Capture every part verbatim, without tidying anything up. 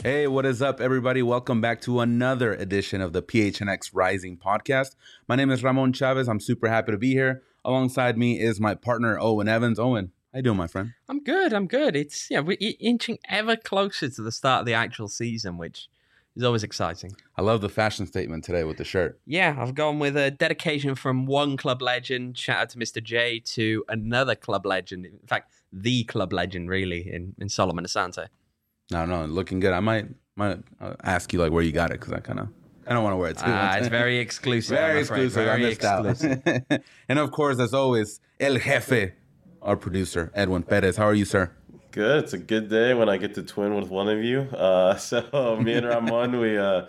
Hey, what is up, everybody? Welcome back to another edition of the P H N X Rising podcast. My name is Ramon Chavez. I'm super happy to be here. Alongside me is my partner, Owen Evans. Owen, how you doing, my friend? I'm good. I'm good. It's yeah, we're inching ever closer to the start of the actual season, which is always exciting. I love the fashion statement today with the shirt. Yeah, I've gone with a dedication from one club legend, shout out to Mister J, to another club legend. In fact, the club legend, really, in, in Solomon Asante. No, no, looking good. I might might uh, ask you like where you got it because I kind of I don't want to wear it too. Ah, it's very exclusive. Very I'm afraid. exclusive. Very I missed exclusive. out. And of course, as always, El Jefe, our producer, Edwin Perez. How are you, sir? Good. It's a good day when I get to twin with one of you. Uh, so me and Ramon, we uh,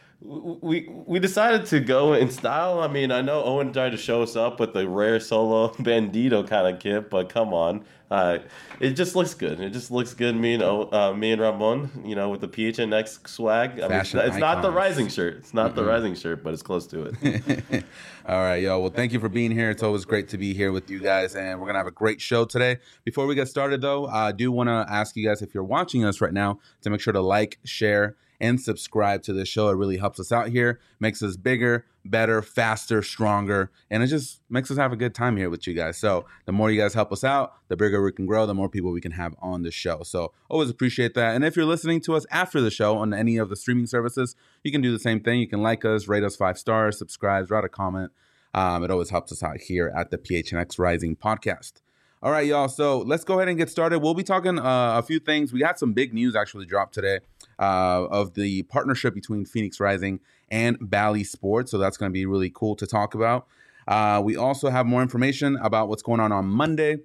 we we decided to go in style. I mean, I know Owen tried to show us up with the rare solo bandito kind of kit, but come on, uh, it just looks good. It just looks good. Me and uh, me and Ramon, you know, with the P H N X swag. I mean, it's, it's not the Rising shirt. It's not mm-hmm. the Rising shirt, but it's close to it. All right, yo. Well, thank you for being here. It's always great to be here with you guys, and we're gonna have a great show today. Before we get started, though, I do want to ask you guys, if you're watching us right now, to make sure to like, share, and subscribe to this show. It really helps us out here, makes us bigger, better, faster, stronger, and it just makes us have a good time here with you guys. So the more you guys help us out, the bigger we can grow, the more people we can have on the show. So always appreciate that. And if you're listening to us after the show on any of the streaming services, you can do the same thing. You can like us, rate us five stars, subscribe, write a comment. Um, it always helps us out here at the P H N X Rising podcast. All right, y'all. So let's go ahead and get started. We'll be talking uh, a few things. We got some big news actually dropped today uh, of the partnership between Phoenix Rising and Bally Sports. So that's going to be really cool to talk about. Uh, we also have more information about what's going on on Monday,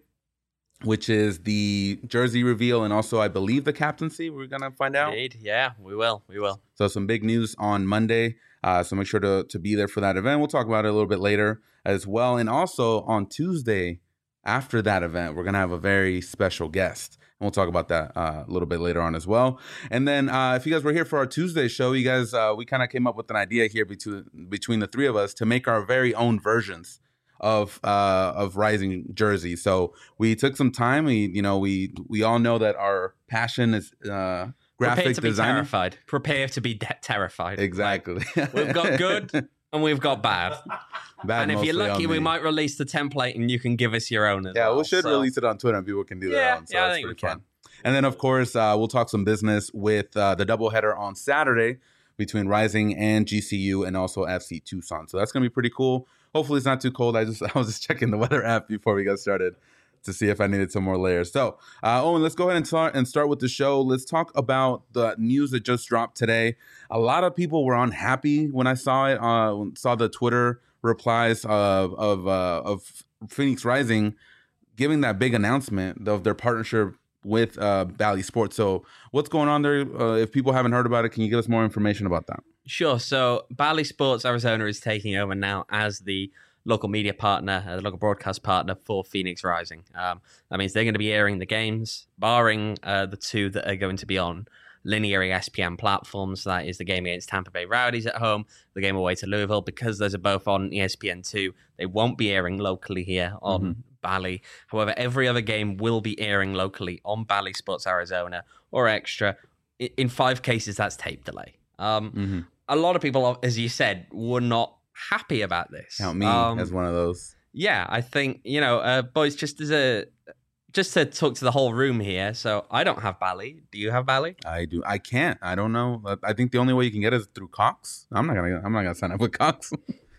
which is the jersey reveal and also, I believe, the captaincy. We're going to find out. Indeed. Yeah, we will. We will. So some big news on Monday. Uh, so make sure to, to be there for that event. We'll talk about it a little bit later as well. And also on Tuesday, after that event, we're going to have a very special guest. And we'll talk about that uh, a little bit later on as well. And then uh, if you guys were here for our Tuesday show, you guys, uh, we kind of came up with an idea here between, between the three of us to make our very own versions of uh, of Rising jerseys. So we took some time. We, you know, we we all know that our passion is uh, graphic Prepare to design. Be terrified. Prepare to be de- terrified. Exactly. Like, we've got good and we've got bad. Bad, and if you're lucky, we might release the template and you can give us your own as yeah, well. we should so. release it on Twitter and people can do yeah, that on. So yeah, that's I think we pretty fun. can. And then, of course, uh, we'll talk some business with uh, the doubleheader on Saturday between Rising and G C U and also F C Tucson. So that's going to be pretty cool. Hopefully it's not too cold. I just I was just checking the weather app before we got started to see if I needed some more layers. So, uh, Owen, let's go ahead and start, and start with the show. Let's talk about the news that just dropped today. A lot of people were unhappy when I saw it, uh, saw the Twitter replies of of, uh, of Phoenix Rising giving that big announcement of their partnership with uh, Bally Sports. So what's going on there? Uh, if people haven't heard about it, can you give us more information about that? Sure. So Bally Sports Arizona is taking over now as the local media partner, uh, the local broadcast partner for Phoenix Rising. Um, that means they're going to be airing the games, barring uh, the two that are going to be on linear E S P N platforms. That is the game against Tampa Bay Rowdies at home, the game away to Louisville. Because those are both on E S P N two, they won't be airing locally here on mm-hmm. Bally. However, every other game will be airing locally on Bally Sports Arizona or Extra. In five cases, that's tape delay. Um, mm-hmm. A lot of people, as you said, were not happy about this. Count me um, as one of those. Yeah, I think, you know, uh, boys, just as a just to talk to the whole room here. So I don't have Bally. Do you have Bally? I do. I can't. I don't know. I think the only way you can get it is through Cox. I'm not gonna. I'm not gonna sign up with Cox.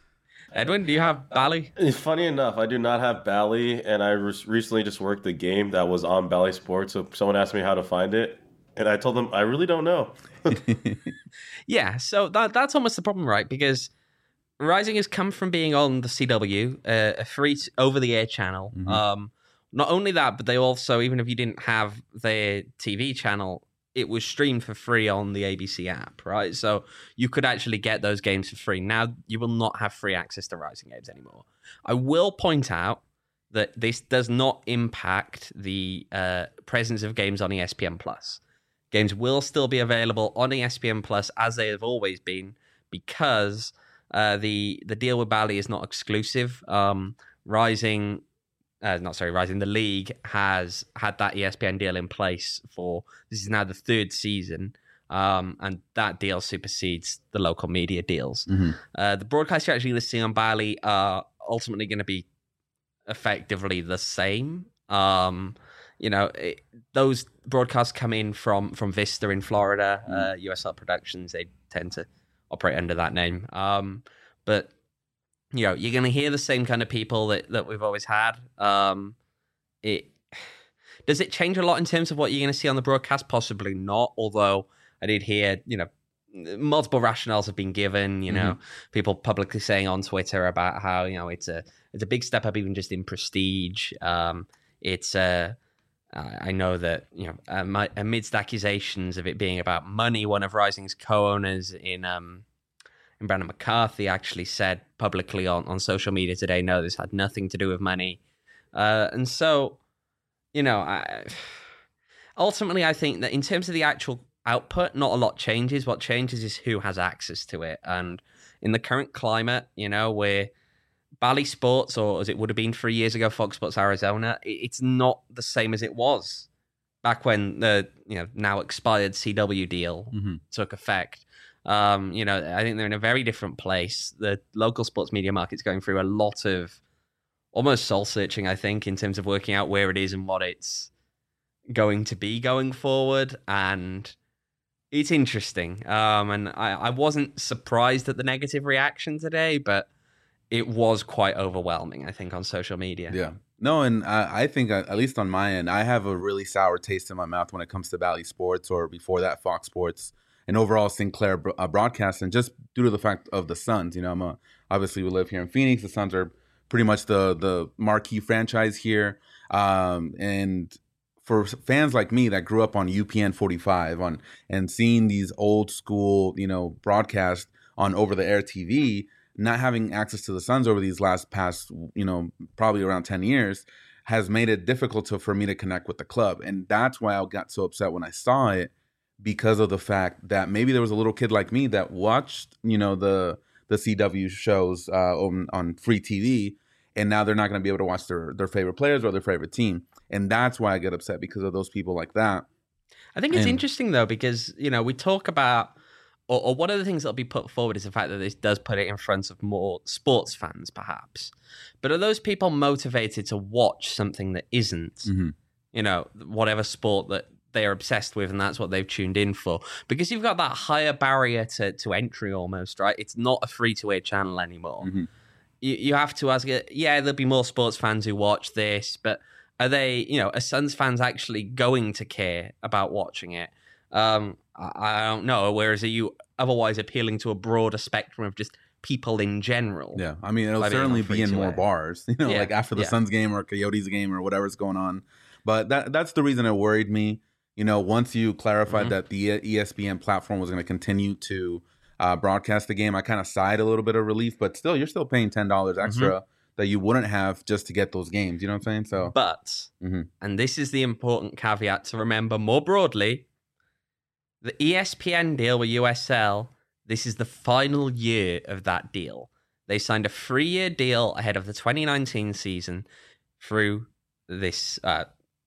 Edwin, do you have Bally? Funny enough, I do not have Bally, and I re- recently just worked a game that was on Bally Sports. So someone asked me how to find it, and I told them I really don't know. Yeah, so that that's almost the problem, right? Because Rising has come from being on the C W, uh, a free t- over-the-air channel. Mm-hmm. Um, not only that, but they also, even if you didn't have their T V channel, it was streamed for free on the A B C app, right? So you could actually get those games for free. Now you will not have free access to Rising games anymore. I will point out that this does not impact the uh, presence of games on E S P N Plus. Games will still be available on E S P N Plus as they have always been, because uh, the the deal with Bally is not exclusive. Um, Rising, uh, not sorry, Rising. The league has had that E S P N deal in place for, this is now the third season. Um, and that deal supersedes the local media deals. Mm-hmm. Uh, the broadcasts you're actually listing on Bally are ultimately going to be effectively the same. Um, you know, it, those broadcasts come in from from Vista in Florida, Mm. uh, U S L Productions. They tend to operate under that name. Um, but you know, you're going to hear the same kind of people that, that we've always had. Um, it does it change a lot in terms of what you're going to see on the broadcast? Possibly not. Although I did hear, you know, multiple rationales have been given. You know, mm-hmm. people publicly saying on Twitter about how, you know, it's a it's a big step up even just in prestige. Um, it's a I know that, you know, amidst accusations of it being about money, one of Rising's co-owners in um, in Brandon McCarthy actually said publicly on, on social media today, no, this had nothing to do with money. Uh, and so, you know, I, ultimately, I think that in terms of the actual output, not a lot changes. What changes is who has access to it. And in the current climate, you know, where Bally Sports, or as it would have been three years ago, Fox Sports Arizona, it's not the same as it was back when the, you know, now expired C W deal mm-hmm. took effect. Um, you know, I think they're in a very different place. The local sports media market's going through a lot of almost soul searching, I think, in terms of working out where it is and what it's going to be going forward. And it's interesting. Um, and I, I wasn't surprised at the negative reaction today, but it was quite overwhelming, I think, on social media. Yeah. No, and I, I think, uh, at least on my end, I have a really sour taste in my mouth when it comes to Bally Sports, or before that, Fox Sports, and overall Sinclair uh, broadcasting, just due to the fact of the Suns. You know, I'm a, obviously we live here in Phoenix. The Suns are pretty much the the marquee franchise here. Um, and for fans like me that grew up on U P N forty-five on and seeing these old school, you know, broadcasts on over-the-air T V, not having access to the Suns over these last past, you know, probably around ten years, has made it difficult to, for me to connect with the club. And that's why I got so upset when I saw it, because of the fact that maybe there was a little kid like me that watched, you know, the the C W shows uh, on, on free T V, and now they're not going to be able to watch their, their favorite players or their favorite team. And that's why I get upset, because of those people like that. I think it's and, interesting, though, because, you know, we talk about, or, or one of the things that'll be put forward is the fact that this does put it in front of more sports fans, perhaps. But are those people motivated to watch something that isn't, mm-hmm. you know, whatever sport that they're obsessed with, and that's what they've tuned in for? Because you've got that higher barrier to, to entry almost, right? It's not a free-to-air channel anymore. Mm-hmm. You, you have to ask, yeah, there'll be more sports fans who watch this, but are they, you know, are Suns fans actually going to care about watching it? Um, I, I don't know. Whereas are you otherwise appealing to a broader spectrum of just people in general? Yeah, I mean, it'll certainly be in more bars, you know, yeah. like after the yeah. Suns game or Coyotes game or whatever's going on. But that that's the reason it worried me. You know, once you clarified mm-hmm. that the E S P N platform was going to continue to uh, broadcast the game, I kind of sighed a little bit of relief. But still, you're still paying ten dollars extra mm-hmm. that you wouldn't have just to get those games. You know what I'm saying? So, but, mm-hmm. and this is the important caveat to remember more broadly, the E S P N deal with U S L, this is the final year of that deal. They signed a three-year deal ahead of the twenty nineteen season through this... Uh,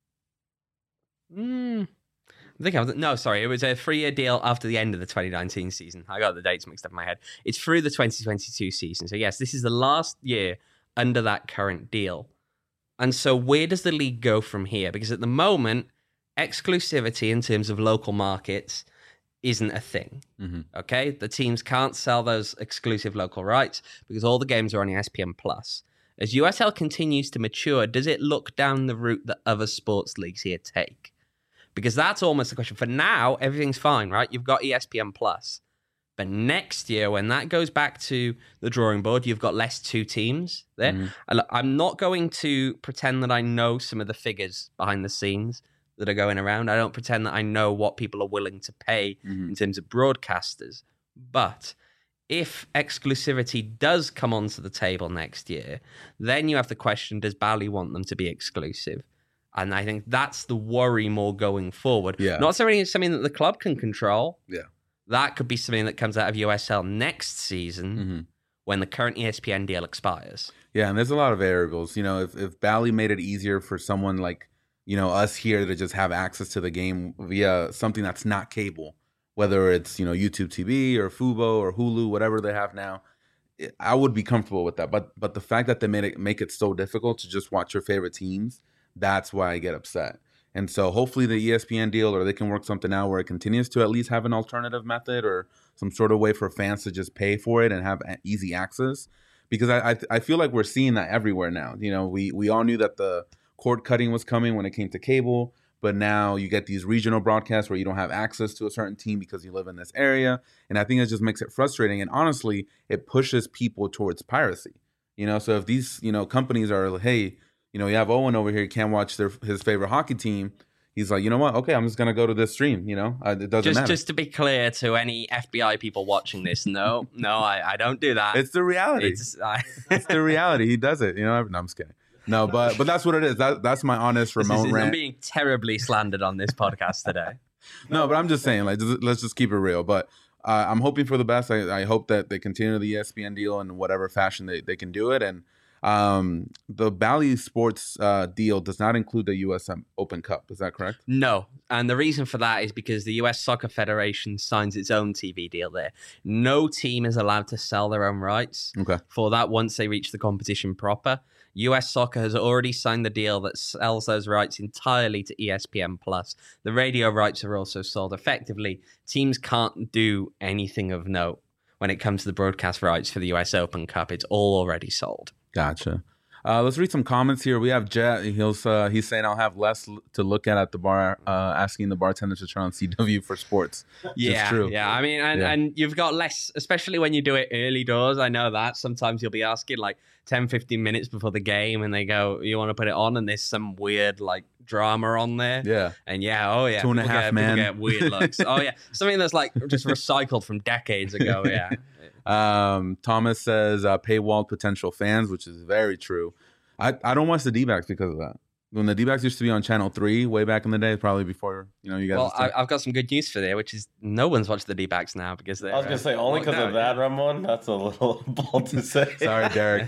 mm, I think I was... No, sorry. It was a three-year deal after the end of the twenty nineteen season. I got the dates mixed up in my head. It's through the twenty twenty-two season. So, yes, this is the last year under that current deal. And so where does the league go from here? Because at the moment, exclusivity in terms of local markets isn't a thing. Mm-hmm. Okay? The teams can't sell those exclusive local rights because all the games are on E S P N Plus. As U S L continues to mature, does it look down the route that other sports leagues here take? Because that's almost the question. For now, everything's fine, right? You've got E S P N Plus. But next year, when that goes back to the drawing board, you've got less two teams there. Mm-hmm. I'm not going to pretend that I know some of the figures behind the scenes that are going around. I don't pretend that I know what people are willing to pay mm-hmm. in terms of broadcasters. But if exclusivity does come onto the table next year, then you have the question, does Bally want them to be exclusive? And I think that's the worry more going forward. Yeah. Not something, something that the club can control. Yeah. That could be something that comes out of U S L next season mm-hmm. when the current E S P N deal expires. Yeah, and there's a lot of variables. You know, if, if Bally made it easier for someone like, you know, us here to just have access to the game via something that's not cable, whether it's, you know, YouTube T V or Fubo or Hulu, whatever they have now. I would be comfortable with that. But but the fact that they made it make it so difficult to just watch your favorite teams, that's why I get upset. And so hopefully the E S P N deal, or they can work something out where it continues to at least have an alternative method or some sort of way for fans to just pay for it and have easy access. Because I I, I feel like we're seeing that everywhere now. You know, we we all knew that the cord cutting was coming when it came to cable. But now you get these regional broadcasts where you don't have access to a certain team because you live in this area. And I think it just makes it frustrating. And honestly, it pushes people towards piracy. You know, so if these, you know, companies are, hey, you know, you have Owen over here, he can't watch their, his favorite hockey team. He's like, you know what? Okay, I'm just going to go to this stream. You know, it doesn't just, matter. Just to be clear to any F B I people watching this, no, no, I, I don't do that. It's the reality. It's, I... it's the reality. He does it. You know, no, I'm just kidding. No, but but that's what it is. That that's my honest remote is, rant. I'm being terribly slandered on this podcast today. No, but I'm just saying, like, just, let's just keep it real. But uh, I'm hoping for the best. I, I hope that they continue the E S P N deal in whatever fashion they, they can do it. And um, the Bally Sports uh, deal does not include the U S Open Cup. Is that correct? No. And the reason for that is because the U S Soccer Federation signs its own T V deal there. No team is allowed to sell their own rights okay. for that once they reach the competition proper. U S Soccer has already signed the deal that sells those rights entirely to E S P N Plus. The radio rights are also sold. Effectively, teams can't do anything of note when it comes to the broadcast rights for the U S Open Cup. It's all already sold. Gotcha. Uh, let's read some comments here. We have Jet. He's, uh, he's saying I'll have less to look at at the bar, uh, asking the bartender to turn on C W for sports. Yeah, true. yeah. I mean, and, yeah. and you've got less, especially when you do it early doors. I know that. Sometimes you'll be asking like ten, fifteen minutes before the game and they go, you want to put it on? And there's some weird like drama on there. Yeah. And yeah, oh yeah. Two and a people half get, man. People get weird looks. Oh yeah. Something that's like just recycled from decades ago. Yeah. Um, Thomas says uh, paywall potential fans, which is very true. I, I don't watch the D-backs because of that. When the D-backs used to be on Channel three way back in the day, probably before, you know, you guys. Well, I, I've got some good news for there, which is no one's watched the D-backs now because they're. I was going to say, only because of that, Ramon? That's a little bold to say. Sorry, Derek.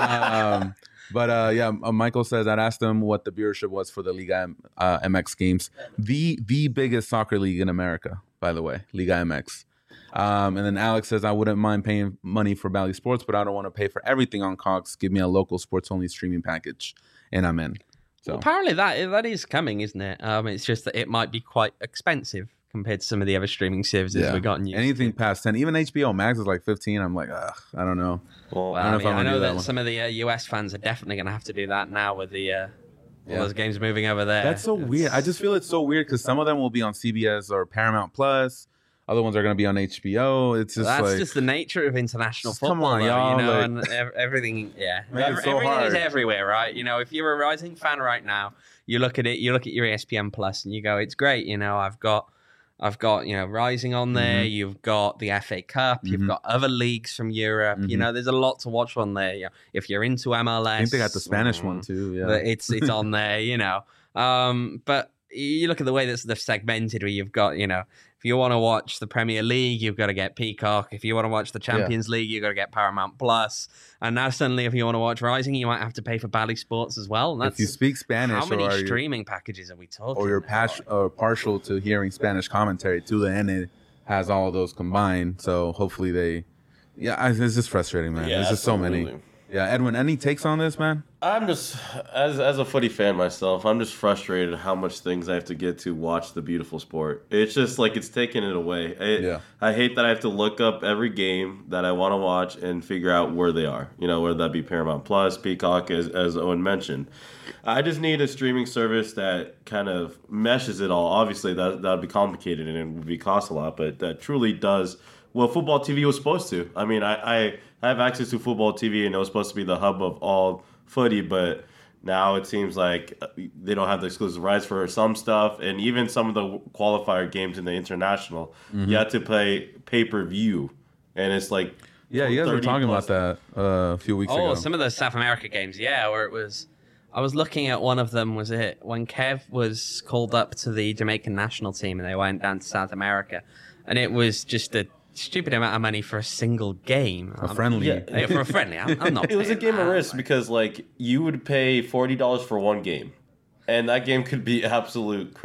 Um, but uh, yeah, uh, Michael says, I'd asked him what the viewership was for the Liga M- uh, M X games. The, the biggest soccer league in America, by the way, Liga M X. Um, and then Alex says, I wouldn't mind paying money for Bally Sports, but I don't want to pay for everything on Cox. Give me a local sports-only streaming package, and I'm in. So well, apparently that that is coming, isn't it? Um, it's just that it might be quite expensive compared to some of the other streaming services yeah. we've gotten used Anything to. past ten, even H B O Max is like fifteen. I'm like, ugh, I don't know. Well, I, don't know, I, mean, I know that, that some of the uh, U S fans are definitely going to have to do that now with the uh, all yeah. those games moving over there. That's so it's... weird. I just feel it's so weird because some of them will be on C B S or Paramount Plus. Other ones are going to be on H B O. It's just That's like, just the nature of international football. Come on, though, y'all. You know, like, and ev- everything, yeah. Make it so everything hard. is everywhere, right? You know, if you're a Rising fan right now, you look at it, you look at your E S P N Plus and you go, it's great. You know, I've got, I've got, you know, Rising on there. Mm-hmm. You've got the F A Cup. Mm-hmm. You've got other leagues from Europe. Mm-hmm. You know, there's a lot to watch on there. You know, if you're into M L S. I think they got the Spanish mm, one too. Yeah. It's, it's on there, you know. Um, but you look at the way that they're segmented where you've got, you know, if you want to watch the Premier League, you've got to get Peacock. If you want to watch the Champions yeah. League, you've got to get Paramount Plus. And now suddenly, if you want to watch Rising, you might have to pay for Bally Sports as well. And that's, if you speak Spanish, how many or streaming you, packages are we talking? Or you're pas- or partial to hearing Spanish commentary, Tulane has all of those combined. So hopefully they, yeah, it's just frustrating, man. Yeah, There's just so absolutely. many. Yeah, Edwin, any takes on this, man? I'm just, as as a footy fan myself, I'm just frustrated how much things I have to get to watch the beautiful sport. It's just like it's taking it away. I, yeah. I hate that I have to look up every game that I want to watch and figure out where they are. You know, whether that be Paramount Plus, Peacock, as, as Owen mentioned. I just need a streaming service that kind of meshes it all. Obviously, that that would be complicated and it would be cost a lot, but that truly does what football T V was supposed to. I mean, I, I, I have access to football T V, and it was supposed to be the hub of all footy, but now it seems like they don't have the exclusive rights for some stuff, and even some of the qualifier games in the international, mm-hmm. you have to play pay-per-view, and it's like yeah, you guys were talking about that uh, a few weeks oh, ago. Oh, some of those South America games, yeah, where it was. I was looking at one of them. Was it when Kev was called up to the Jamaican national team, and they went down to South America, and it was just a stupid amount of money for a single game. A friendly. Yeah, yeah, for a friendly. I'm, I'm not It was a game that. of risk because, like, you would pay forty dollars for one game, and that game could be absolute crap.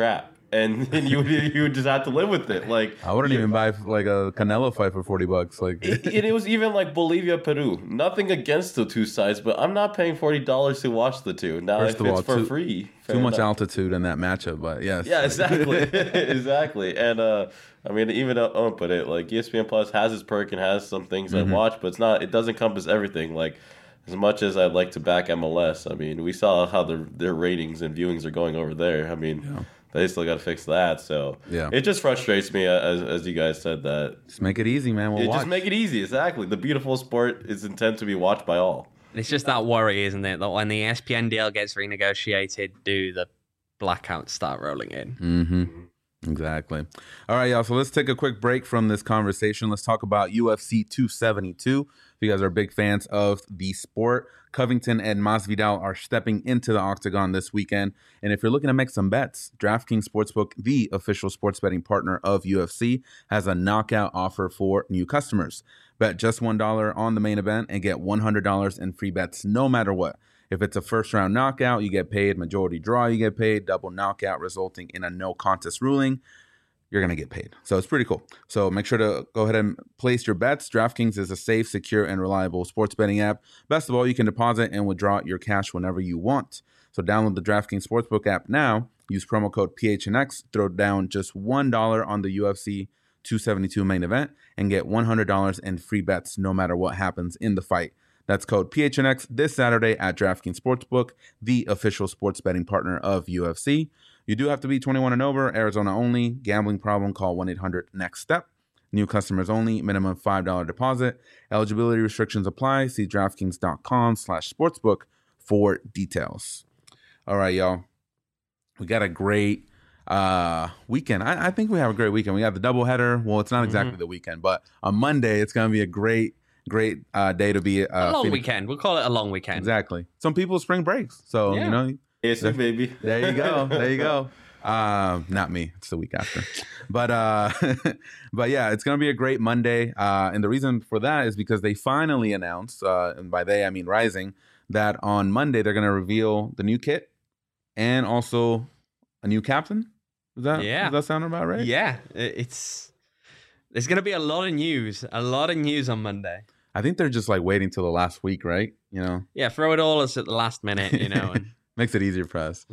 and, and you would you would just have to live with it. Like I wouldn't you- even buy like a Canelo fight for forty bucks. Like it, it, it was even like Bolivia, Peru. Nothing against the two sides, but I'm not paying forty dollars to watch the two. Now, First if of it's all, for too- free, fair too much enough. altitude in that matchup, but yes. Yeah, exactly, exactly. And uh, I mean, even uh, Owen put it like E S P N Plus has its perk and has some things Mm-hmm. I watch, but it's not. It doesn't encompass everything. Like as much as I'd like to back M L S, I mean, we saw how their their ratings and viewings are going over there. I mean. Yeah. They still got to fix that, so Yeah. it just frustrates me, as as you guys said that. Just make it easy, man. We'll It watch. just make it easy, exactly. The beautiful sport is intended to be watched by all. It's just that worry, isn't it? That when the E S P N deal gets renegotiated, do the blackouts start rolling in? Mm-hmm. Exactly. All right, y'all. So let's take a quick break from this conversation. Let's talk about U F C two seventy-two. If you guys are big fans of the sport, Covington and Masvidal are stepping into the octagon this weekend. And if you're looking to make some bets, DraftKings Sportsbook, the official sports betting partner of U F C, has a knockout offer for new customers. Bet just one dollar on the main event and get one hundred dollars in free bets no matter what. If it's a first round knockout, you get paid. Majority draw, you get paid. Double knockout resulting in a no contest ruling, you're going to get paid. So it's pretty cool. So make sure to go ahead and place your bets. DraftKings is a safe, secure, and reliable sports betting app. Best of all, you can deposit and withdraw your cash whenever you want. So download the DraftKings Sportsbook app now. Use promo code P H N X. Throw down just one dollar on the U F C two seventy-two main event and get one hundred dollars in free bets no matter what happens in the fight. That's code P H N X this Saturday at DraftKings Sportsbook, the official sports betting partner of U F C. You do have to be twenty-one and over, Arizona only. Gambling problem, call one eight hundred next step. New customers only, minimum five dollars deposit. Eligibility restrictions apply. See DraftKings.com slash sportsbook for details. All right, y'all. We got a great uh, weekend. I, I think we have a great weekend. We got the doubleheader. Well, it's not exactly Mhm. the weekend, but on Monday, it's going to be a great, great uh, day to be. Uh, a long feeling- weekend. We'll call it a long weekend. Exactly. Some people spring breaks. So, Yeah. you know, Yes, baby. there you go. There you go. Um, not me. It's the week after. But uh, but yeah, it's gonna be a great Monday. Uh, and the reason for that is because they finally announced, uh, and by they I mean Rising, that on Monday they're gonna reveal the new kit and also a new captain. Is that Yeah. Does that sound about right? Yeah, it- it's there's gonna be a lot of news, a lot of news on Monday. I think they're just like waiting till the last week, right? You know. Yeah, throw it all us at the last minute, you know. And Makes it easier for us.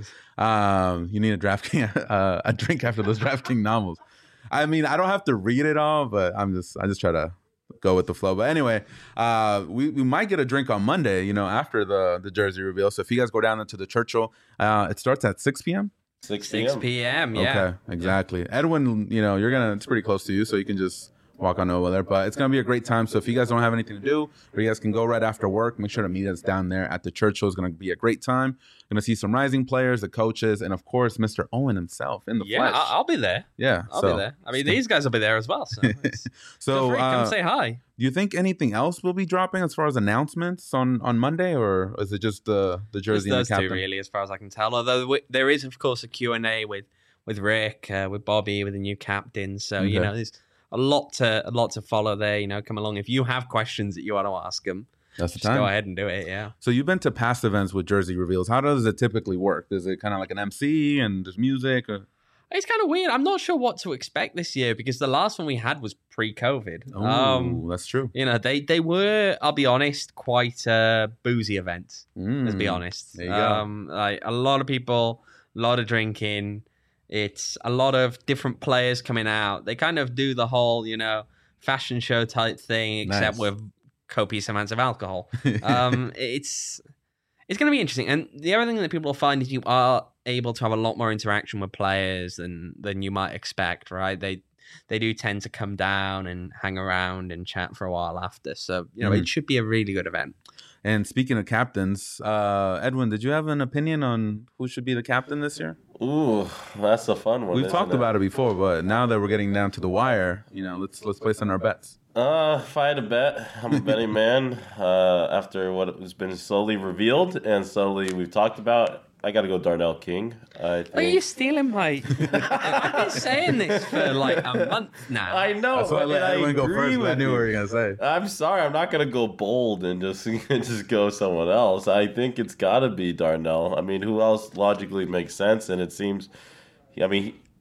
Um, you need a draft uh, a drink after those DraftKings novels. I mean, I don't have to read it all, but I'm just I just try to go with the flow. But anyway, uh, we, we might get a drink on Monday, you know, after the the jersey reveal. So if you guys go down into the Churchill, uh, it starts at six p.m. six six p.m. Yeah. Okay, exactly. Edwin, you know, you're gonna it's pretty close to you, so you can just walk on over there. But it's gonna be a great time. So if you guys don't have anything to do, or you guys can go right after work, make sure to meet us down there at the Churchill. It's gonna be a great time. Gonna see some Rising players, the coaches, and of course, Mister Owen himself in the Yeah, flesh. I- I'll be there. yeah, I'll so, be there. I mean, these guys will be there as well. So, it's- feel So, free, uh, come say hi. do you think anything else will be dropping as far as announcements on, on Monday, or is it just the the Just jersey and those the two, captain? really, as far as I can tell. Although w- there is, of course, a Q and A with with Rick, uh, with Bobby, with the new captain. So you Okay. know, there's a lot to a lot to follow there. You know, come along if you have questions that you want to ask them. That's the Just time. go ahead and do it. Yeah. So you've been to past events with jersey reveals. How does it typically work? Is it kind of like an M C and there's music? Or... It's kind of weird. I'm not sure what to expect this year because the last one we had was pre-COVID. Oh, Um, that's true. you know, they they were, I'll be honest, quite a boozy event. Let's be Mm. honest. There you go. Um, like a lot of people, a lot of drinking. It's a lot of different players coming out. They kind of do the whole, you know, fashion show type thing, except Nice. with copious amounts of alcohol. um, it's it's going to be interesting. And the other thing that people will find is you are able to have a lot more interaction with players than than you might expect, right? They they do tend to come down and hang around and chat for a while after. So, you know, Mhm. it should be a really good event. And speaking of captains, uh, Edwin, did you have an opinion on who should be the captain this year? Ooh, that's a fun one. We've isn't talked it? about it before, but now that we're getting down to the wire, you know, let's let's place on our bets. Uh, if I had to bet, I'm a betting man. Uh, after what has been slowly revealed and slowly we've talked about, I got to go Darnell King. I think. Are you stealing my... I've been saying this for like a month now. I know. That's why I let and Edwin go agree first. But I with knew you. what you were gonna say. I'm sorry, I'm not gonna go bold and just just go someone else. I think it's got to be Darnell. I mean, who else logically makes sense? And it seems, I mean,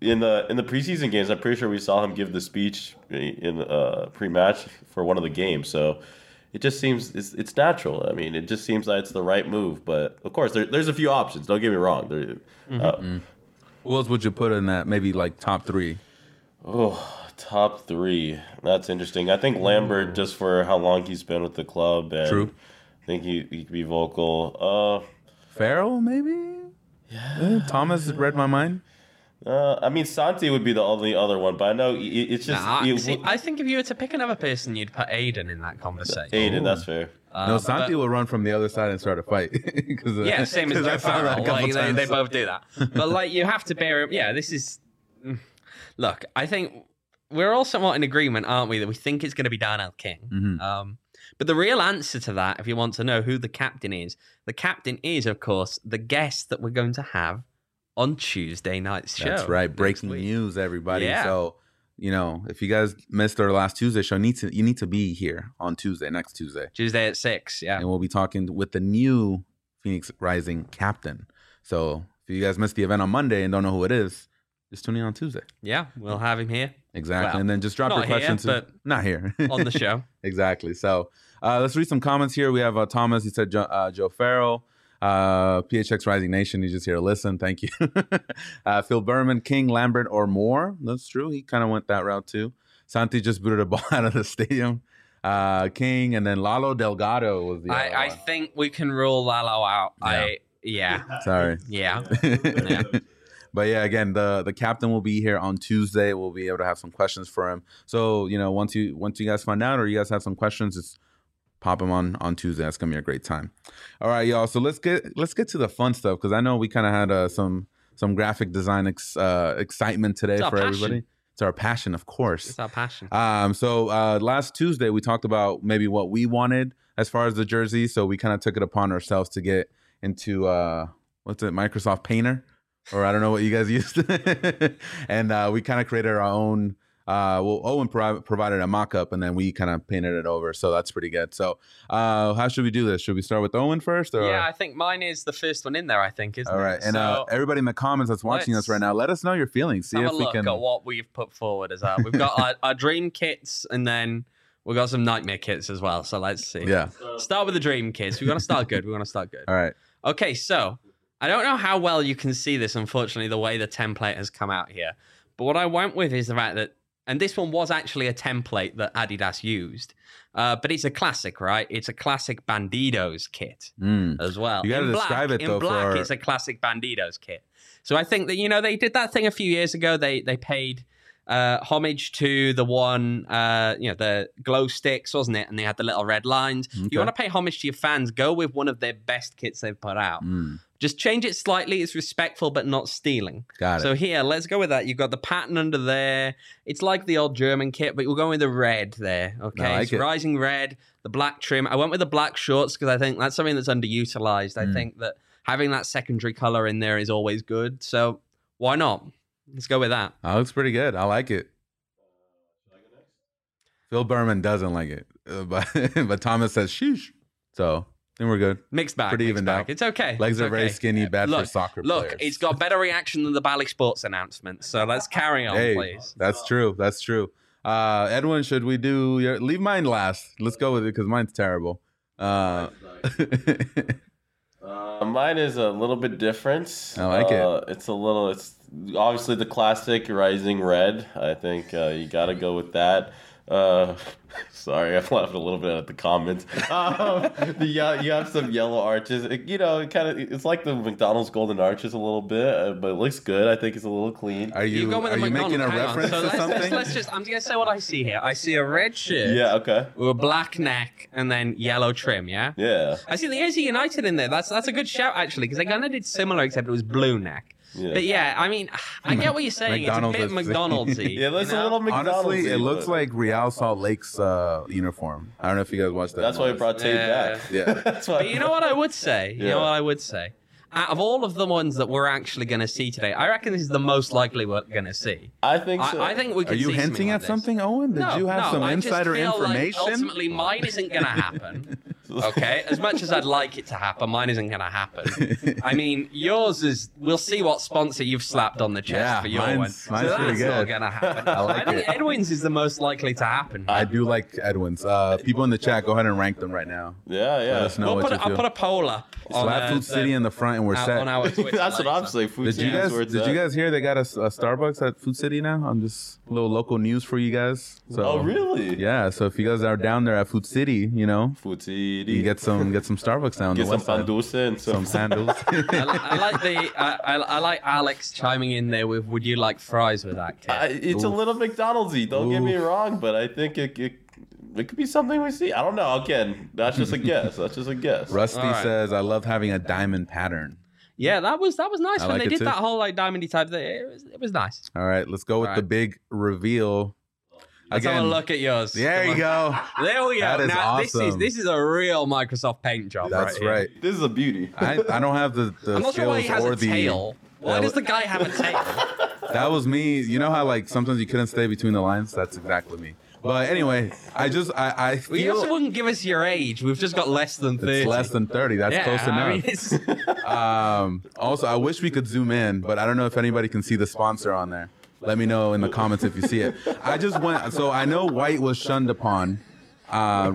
in the in the preseason games, I'm pretty sure we saw him give the speech in uh, pre-match for one of the games. So it just seems it's, it's natural. I mean, it just seems like it's the right move. But of course, there, there's a few options. Don't get me wrong. There, mm-hmm. uh, Who else would you put in that? Maybe like top three. Oh, top three. That's interesting. I think Lambert, just for how long he's been with the club, and True. I think he he could be vocal. Uh, Farrell, maybe. Yeah. Thomas read my mind. Uh, I mean, Santi would be the only other one, but I know it, it's just. Nah, it, see, I think if you were to pick another person, you'd put Aiden in that conversation. Aiden, Ooh. That's fair. Uh, no, Santi but, will run from the other side and start a fight. uh, yeah, same as Joe Farrell. Like, they, they both do that. But like, you have to bear. Yeah, this is. Look, I think we're all somewhat in agreement, aren't we, that we think it's going to be Darnell King. Mm-hmm. Um, but the real answer to that, if you want to know who the captain is, the captain is, of course, the guest that we're going to have on Tuesday night's show. That's right. Breaking news, everybody. Yeah. So, you know, if you guys missed our last Tuesday show, need to you need to be here on Tuesday, next Tuesday. Tuesday at six, yeah. And we'll be talking with the new Phoenix Rising captain. So if you guys missed the event on Monday and don't know who it is, just tune in on Tuesday. Yeah, we'll have him here. Exactly. Well, and then just drop not your questions. Here, but not here. on the show. Exactly. So uh, let's read some comments here. We have uh, Thomas. He said Joe, uh, Joe Farrell. Uh, P H X Rising Nation, you just here to listen. Thank you. uh, Phil Berman, King, Lambert, or more. That's true. He kind of went that route too. Santi just booted a ball out of the stadium. Uh, King, and then Lalo Delgado was the other I, I one. think we can rule Lalo out. Yeah. I yeah. Sorry. Yeah. yeah. But yeah, again, the the captain will be here on Tuesday. We'll be able to have some questions for him. So, you know, once you once you guys find out or you guys have some questions, just pop them on on Tuesday. That's gonna be a great time. All right, y'all. So let's get let's get to the fun stuff because I know we kind of had uh, some some graphic design ex, uh, excitement today for passion. everybody. It's our passion, of course. It's our passion. Um, so uh, last Tuesday we talked about maybe what we wanted as far as the jersey. So we kind of took it upon ourselves to get into uh, what's it, Microsoft Painter, or I don't know what you guys used, and uh, we kind of created our own. Uh, well, Owen pro- provided a mock-up, and then we kind of painted it over. So that's pretty good. So uh, how should we do this? Should we start with Owen first? Or? Yeah, I think mine is the first one in there, I think, isn't All right. it? And so, uh, everybody in the comments that's watching us right now, let us know your feelings. See have if a we look can. at what we've put forward as well. We've got our, our dream kits, and then we've got some nightmare kits as well. So let's see. Yeah. Start with the dream kits. We want to start good. We want to start good. All right. Okay, so I don't know how well you can see this, unfortunately, the way the template has come out here. But what I went with is the fact that, and this one was actually a template that Adidas used, uh, but it's a classic, right? It's a classic Bandidos kit Mm. as well. You got to In describe black, it though. In black, for... it's a classic Bandidos kit. So I think that, you know, they did that thing a few years ago. They they paid uh, homage to the one, uh, you know, the glow sticks, wasn't it? And they had the little red lines. Okay. You want to pay homage to your fans, go with one of their best kits they've put out. Mm. Just change it slightly. It's respectful, but not stealing. Got it. So here, let's go with that. You've got the pattern under there. It's like the old German kit, but we're going with the red there. Okay, I like it's it. rising red, the black trim. I went with the black shorts because I think that's something that's underutilized. I Mm. think that having that secondary color in there is always good. So why not? Let's go with that. That looks pretty good. I like it. Phil Berman doesn't like it, uh, but but Thomas says sheesh. So I think we're good. Mixed bag. Pretty mixed evened bag. out. It's okay. Legs It's are very okay. skinny, bad look, for soccer Look, players. it's got better reaction than the Bally Sports announcement. So let's carry on, hey, please. that's true. That's true. Uh, Edwin, should we do your leave mine last? Let's go with it because mine's terrible. Uh, Uh, mine is a little bit different. I like it. uh, It's a little. It's obviously the classic Rising Red. I think uh, you got to go with that. Uh, sorry, I laughed a little bit at the comments. Um, the, yeah, you have some yellow arches. It, you know, it kind of it's like the McDonald's golden arches a little bit, uh, but it looks good. I think it's a little clean. are you, go with are the you making a McDonald's. Hang on. reference So to let's, something? Let's, let's just, I'm going to say what I see here. I see a red shirt Yeah. Okay. with a black neck and then yellow trim, yeah? Yeah. I see the A Z United in there. That's that's a good shout, actually, because they kind of did similar, except it was blue neck. Yeah. But yeah, I mean, I get what you're saying. McDonald's it's a bit is- McDonald's-y. Yeah, that's you know? a little McDonald's. Honestly, it looks like Real Salt Lake's uh, uniform. I don't know if you guys watched that. That's why we once. brought Tate Yeah. back. Yeah. That's why. But you know what I would say? You Yeah. know what I would say? Out of all of the ones that we're actually going to see today, I reckon this is the most likely we're going to see. I think so. I, I think we Are could you see hinting like at this. something, Owen? Did no, you have no, some I just insider feel information? Like ultimately, mine isn't going to happen. Okay, as much as I'd like it to happen, mine isn't going to happen. I mean, yours is. We'll see what sponsor you've slapped on the chest Yeah, for your mine's- one. mine's so pretty that's not good. going to happen. I like think it. Edwin's is the most likely to happen. I do like Edwin's. Uh, people in the chat, go ahead and rank them right now. Yeah, yeah. Let us know We'll what put you a, I'll feel. put a poll up on, Slap uh, Food City the- in the front, and we're out set. on our Twitter. That's what I'm later. saying. Food Did you City is guys where it's did at. you guys hear they got a, a Starbucks at Food City now? I'm just a little local news for you guys. So, Oh, really? Yeah. So if you guys are down there at Food City, you know, Food City. you get some get some Starbucks down Get the some west side. pan dulce and some, Some sandals. I, li- I like the I, I, I like Alex chiming in there with "Would you like fries with that kid?" I, it's a Oof. little McDonald'sy. Don't get me Oof. wrong, but I think it, it it could be something we see. I don't know. Again, that's just a guess. That's just a guess. Rusty All right. says, "I love having a diamond pattern." Yeah, that was that was nice I when like they it did too. that whole like diamondy type thing. It was it was nice. All right, let's go with All the right. big reveal. Let's have a look at yours. There Come you on. go. There we go. That is now this is awesome. this is a real Microsoft Paint job. That's right here. right. This is a beauty. I, I don't have the, the I'm not sure skills why he has or a the tail. Why that does wa- the guy have a tail? That was me. You know how like sometimes you couldn't stay between the lines? That's exactly me. But anyway, I just I, I Well, you also feel wouldn't give us your age. We've just got less than thirty. it's less than thirty. That's yeah, close I enough. mean, it's, Um, also, I wish we could zoom in, but I don't know if anybody can see the sponsor on there. Let me know in the comments if you see it. I just went, so I know white was shunned upon. Uh,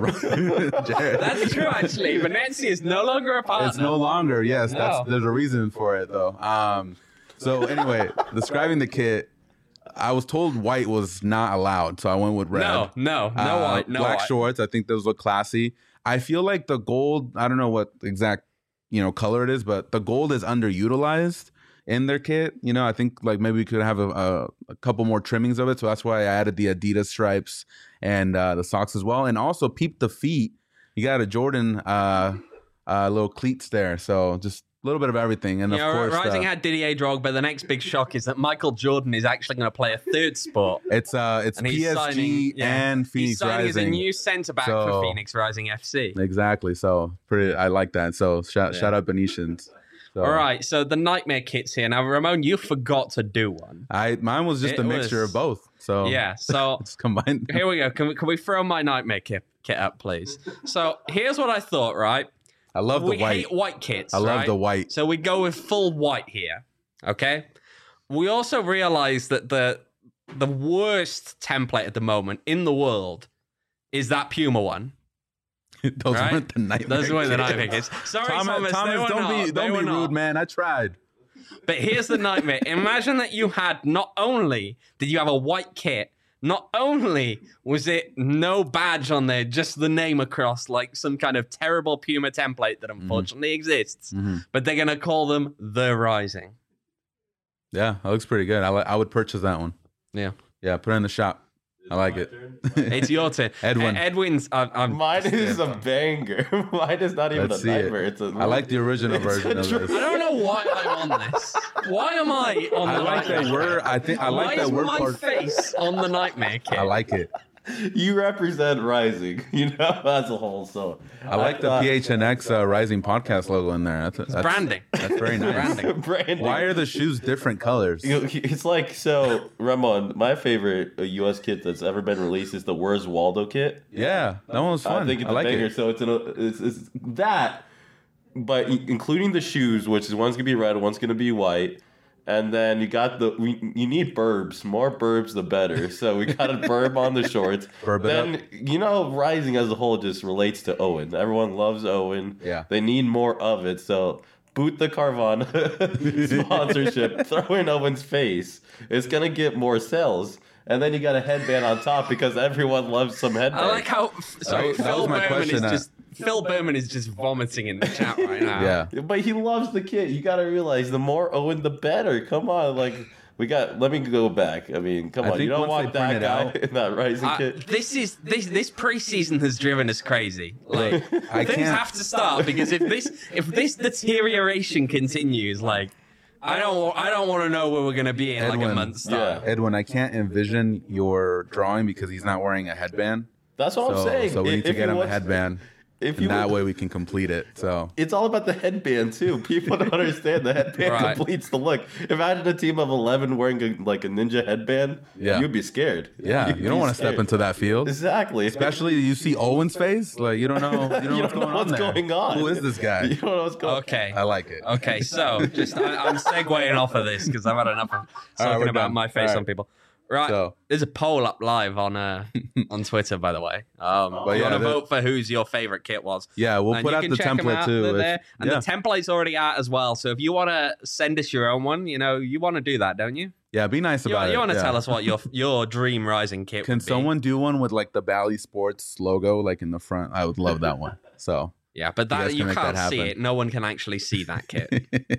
Jared. that's true, actually. Venezia is no longer a partner. It's no longer, yes. That's No. there's a reason for it though. Um, so anyway, describing the kit, I was told white was not allowed, so I went with red. No, no, no Uh, white, no black white. shorts. I think those look classy. I feel like the gold. I don't know what exact you know color it is, but the gold is underutilized in their kit. You know, I think like maybe we could have a, a, a couple more trimmings of it. So that's why I added the Adidas stripes and uh, the socks as well, and also peep the feet. You got a Jordan uh, uh, little cleats there, so just a little bit of everything. And You of know, course, Rising uh, had Didier Drogba. The next big shock is that Michael Jordan is actually going to play a third sport. it's uh, it's And P he's S G signing- yeah. and He's Phoenix signing as a Rising. new centre back So- for Phoenix Rising F C. Exactly. So pretty. I like that. So shout Yeah. shout out Venetians. So, All right, so the nightmare kit's here now. Ramon, you forgot to do one. I mine was just It a mixture was- of both. So Yeah, so it's combined. here we go. Can we, can we throw my nightmare kit, kit up, please? So here's what I thought, right? I love the we white. hate white kits. I love right? the white. So we go with full white here. Okay. We also realize that the the worst template at the moment in the world is that Puma one. Those right? weren't the nightmare. Those were the kits. nightmare kits. Sorry, Thomas, Thomas. Thomas, they were don't not. be They don't were be not. rude, man. I tried. But here's the nightmare. Imagine that you had not only did you have a white kit, not only was it no badge on there, just the name across like some kind of terrible Puma template that unfortunately exists, Mhm. but they're gonna call them the Rising. Yeah, that looks pretty good. I li- I would purchase that one. Yeah, Yeah, put it in the shop. I like it. it's your turn. Edwin. E- Edwin's. I'm, I'm, Mine is a banger. Mine is not even Let's a see it. nightmare. It's a. I like the original It's a version of dr- this. I don't know why I'm on this. Why am I on I the like nightmare that we're. kit? I think I like why that is we're my part. face on the nightmare kit? I like it. You represent Rising, you know, as a whole. So I like the thought- P H N X uh, Rising podcast logo in there. That's, that's Branding. That's very nice. Branding. Branding. Why are the shoes different colors? You know, it's like so, Ramon. My favorite uh, U S kit that's ever been released is the Where's Waldo kit. Yeah, that one was fun. I think it's I like a banger. it. So it's, an, it's it's that, but i- including the shoes, which is one's gonna be red, one's gonna be white, and then you got the we, you need burbs. More burbs, the better. So we got a burb on the shorts. Burb it then up. you know, Rising as a whole just relates to Owen. Everyone loves Owen. Yeah. they need more of it. So. Boot the Carvana sponsorship, throw in Owen's face. It's gonna get more sales. And then you got a headband on top because everyone loves some headband. I like how sorry, That- that Phil was my Berman is question, uh, just Phil Berman is just vomiting in the chat right now. Yeah. But he loves the kid. You got to realize the more Owen, the better. Come on, like we got. Let me go back. I mean, come I on. You think don't once want they that print it guy out- in that Rising Uh, kit. this is this this preseason has driven us crazy. Like I things can't- have to stop because if this if this deterioration continues, like I don't I don't want to know where we're gonna be in like a Edwin, month's time. yeah. Edwin, I can't envision your drawing because he's not wearing a headband. That's what So, I'm saying. so we If- need to if get he him a wants- headband. If and you that way we can complete it. So it's all about the headband too. People don't understand the headband Right. completes the look. Imagine a team of eleven wearing a, like a ninja headband. Yeah. You'd be scared. yeah, You'd you don't be want to step scared. into that field. Exactly. Especially you see Owen's face, like you don't know, you don't know You what's don't know going what's on there. going on. Who is this You guy? don't know what's going. Okay. I like it. Okay, so just I, I'm segueing off of this because I've had enough of talking we're about done. my face All right. on people. Right, So- there's a poll up live on uh, on Twitter, by the way. Um, But you yeah, want to that- vote for whose your favorite kit was? Yeah, we'll And put you out can the check 'em template out. too. They're It's- there. And yeah. the template's already out as well. So if you want to send us your own one, you know, you want to do that, don't you? yeah, be nice You, about it. you want to yeah. tell us what your your dream Rising kit Can would be. someone do one with like the Bally Sports logo, like in the front? I would love that one. So, Yeah, but You guys that can you make that can't see happen. it. No one can actually see that kit.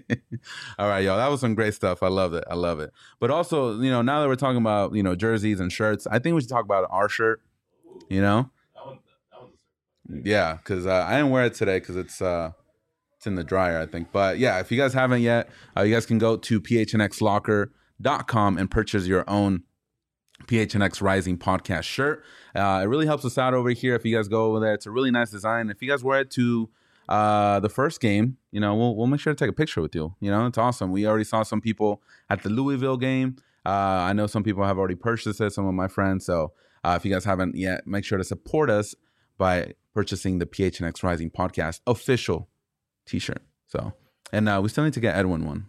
all right, y'all. That was some great stuff. I love it. I love it. But also, you know, now that we're talking about you know jerseys and shirts, I think we should talk about our shirt. You know, That one, that one's yeah, because uh, I didn't wear it today because it's uh, it's in the dryer, I think. But yeah, if you guys haven't yet, uh, you guys can go to p h n x locker dot com and purchase your own P H N X Rising podcast shirt. Uh, it really helps us out over here if you guys go over there. It's a really nice design. If you guys wear it to uh, the first game, you know, we'll we'll make sure to take a picture with you. You know, it's awesome. We already saw some people at the Louisville game. Uh, I know some people have already purchased it, some of my friends. So uh, if you guys haven't yet, make sure to support us by purchasing the P H N X Rising podcast official t-shirt. So, and uh, we still need to get Edwin one.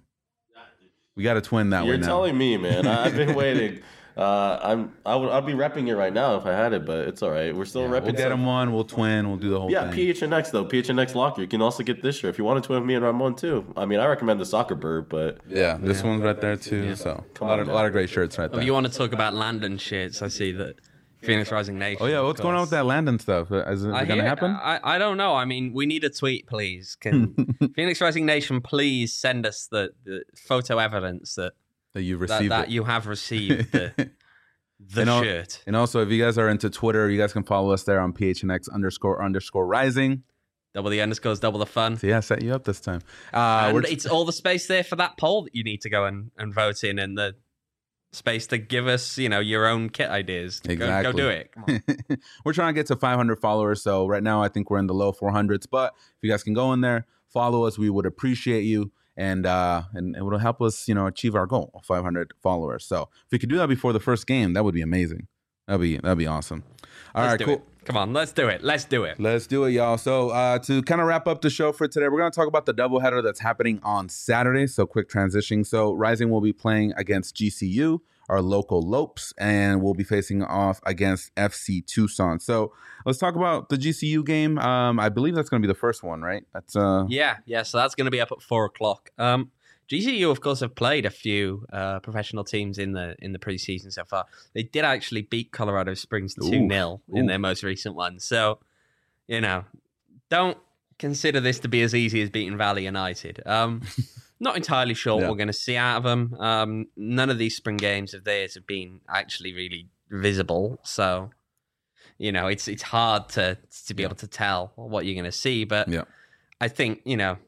We got a twin that You're way now. telling me, man. I- I've been waiting. Uh, I'm. I would. I'd be repping it right now if I had it, but it's all right. We're still Yeah, repping. we'll get some- him one. We'll twin. We'll do the whole Yeah, thing. P H N X though. P H N X Locker. You can also get this shirt if you want to twin with me and Ramon too. I mean, I recommend the Soccer Bird, but Yeah, this one's right there too. So a lot, of, a lot of great shirts right If there. you want to talk about Landon shits, I see that Phoenix Rising Nation. Oh yeah, of what's going on with course. that Landon stuff? Is it I going to hear- happen? I, I don't know. I mean, we need a tweet, please. Can Phoenix Rising Nation please send us the, the photo evidence that that you've that, received that it. you have received the, the And al- shirt. And also, if you guys are into Twitter, you guys can follow us there on P H N X underscore underscore rising. Double the underscores, double the fun. So yeah, I set you up this time. Uh, and we're it's all the space there for that poll that you need to go and, and vote in, and the space to give us, you know, your own kit ideas. Go- Exactly. Go, do it. Come on. we're trying to get to five hundred followers. So right now, I think we're in the low four hundreds. But if you guys can go in there, follow us, we would appreciate you. And uh, and it will help us, you know, achieve our goal of five hundred followers. So if we could do that before the first game, that would be amazing. That'd be that'd be awesome. All Let's right, do cool. it. Come on, let's do it. Let's do it. Let's do it, y'all. So uh, to kind of wrap up the show for today, we're going to talk about the doubleheader that's happening on Saturday. So quick transition. So Rising will be playing against G C U, our local Lopes, and we'll be facing off against F C Tucson. So let's talk about the G C U game. Um, I believe that's going to be the first one, right? That's uh, Yeah, yeah. So that's going to be up at four o'clock. Um, G C U, of course, have played a few uh, professional teams in the in the preseason so far. They did actually beat Colorado Springs two nil in Ooh. their most recent one. So, you know, don't consider this to be as easy as beating Valley United. Um, not entirely sure Yeah. what we're going to see out of them. Um, none of these spring games of theirs have been actually really visible. So, you know, it's it's hard to to be able to tell what you're going to see. But Yeah. I think, you know,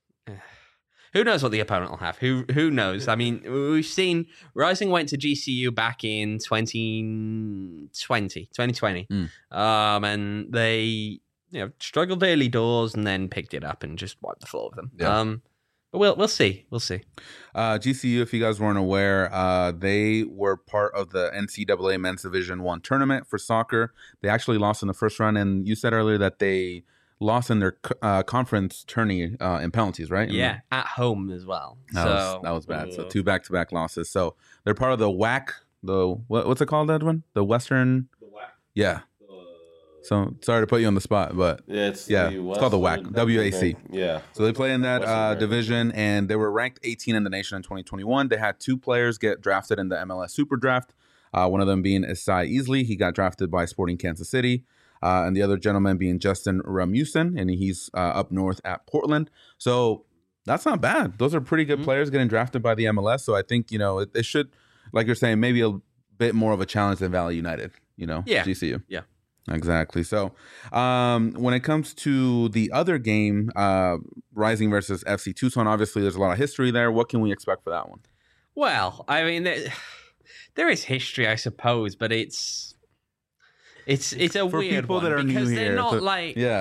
who knows what the opponent will have? Who who knows? I mean, we've seen Rising went to G C U back in twenty twenty, twenty twenty. Mm. Um, and they, you know, struggled early doors and then picked it up and just wiped the floor with them. Yeah. Um, but we'll we'll see. We'll see. Uh, G C U, if you guys weren't aware, uh, they were part of the N C double A Men's Division One tournament for soccer. They actually lost in the first round, and you said earlier that they lost in their uh, conference tourney uh, in penalties, right? Yeah, at home as well. That, so was, that was bad. So uh, two back-to-back losses. So they're part of the W A C, the what, what's it called, Edwin? The Western. The W A C. Yeah. So sorry to put you on the spot, but Yeah, it's Yeah, the it's called the Western- W A C. Yeah. so they play in that Western uh, America. division, and they were ranked eighteen in the nation in twenty twenty-one. They had two players get drafted in the M L S Super Draft. Uh, one of them being Isai Easley. He got drafted by Sporting Kansas City. Uh, and the other gentleman being Justin Ramusin, and he's uh, up north at Portland. So that's not bad. Those are pretty good Mhm. players getting drafted by the M L S. So I think, you know, it, it should, like you're saying, maybe a bit more of a challenge than Valley United, you know, Yeah. G C U. Yeah. Exactly. So um, when it comes to the other game, uh, Rising versus F C Tucson, obviously there's a lot of history there. What can we expect for that one? Well, I mean, there, there is history, I suppose, but it's it's it's a For weird people one that are new because here, they're not to- like Yeah.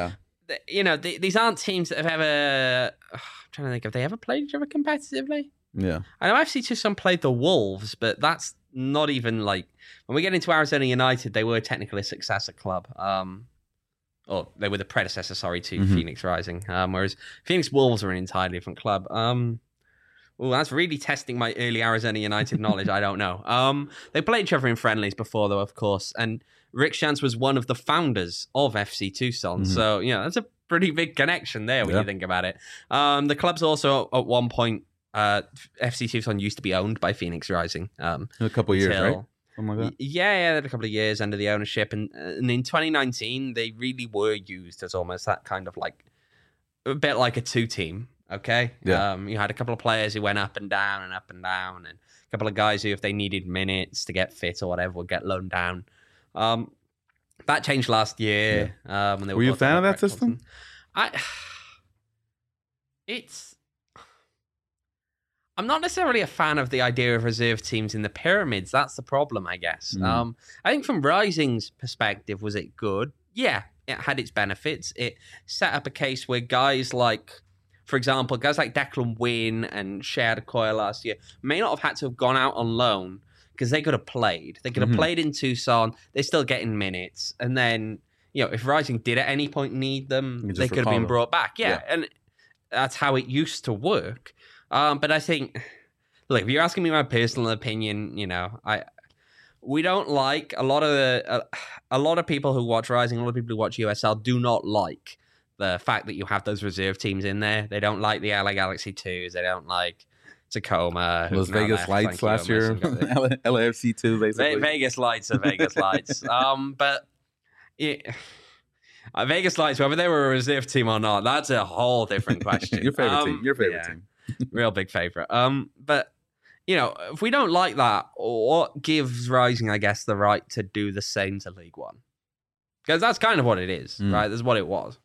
you know, th- these aren't teams that have ever. I'm trying to think, have they ever played each other competitively? Yeah. I know F C Tucson played the Wolves, but that's not even like when we get into Arizona United, they were technically a successor club. Um, or they were the predecessor, sorry, to mm-hmm. Phoenix Rising. Um, whereas Phoenix Wolves are an entirely different club. Um, well, that's really testing my early Arizona United knowledge. I don't know. Um, they played each other in friendlies before, though, of course. And Rick Shantz was one of the founders of F C Tucson. Mm-hmm. So, you know, that's a pretty big connection there when yeah. you think about it. Um, the club's also at one point, uh, F C Tucson used to be owned by Phoenix Rising. Um, a couple of years, right? Something like that. Yeah, yeah, they had a couple of years under the ownership. And, and in twenty nineteen, they really were used as almost that kind of like, a bit like a two-team. Okay. Yeah. Um, you had a couple of players who went up and down and up and down, and a couple of guys who, if they needed minutes to get fit or whatever, would get loaned down. Um, that changed last year. Yeah. Um, when they were, were you a fan of that system? Thompson. I. It's. I'm not necessarily a fan of the idea of reserve teams in the pyramids. That's the problem, I guess. Mm. Um, I think from Rising's perspective, was it good? Yeah, it had its benefits. It set up a case where guys like. For example, guys like Declan Wynn and Shea Adekoya last year may not have had to have gone out on loan because they could have played. They could have mm-hmm. played in Tucson. They're still getting minutes. And then, you know, if Rising did at any point need them, they could have been brought back. Yeah, yeah, and that's how it used to work. Um, but I think, look, if you're asking me my personal opinion, you know, I we don't like a lot of the, uh, a lot of people who watch Rising, a lot of people who watch U S L do not like the fact that you have those reserve teams in there. They don't like the L A Galaxy twos. They don't like Tacoma. Those Vegas left, Lights last year. L A F C two, basically. Ve- Vegas Lights are Vegas Lights. Um, but it, uh, Vegas Lights, whether they were a reserve team or not, that's a whole different question. Your favorite um, team. Your favorite yeah, team. Real big favorite. Um, but, you know, if we don't like that, what gives Rising, I guess, the right to do the same to League One? Because that's kind of what it is, mm. right? That's what it was.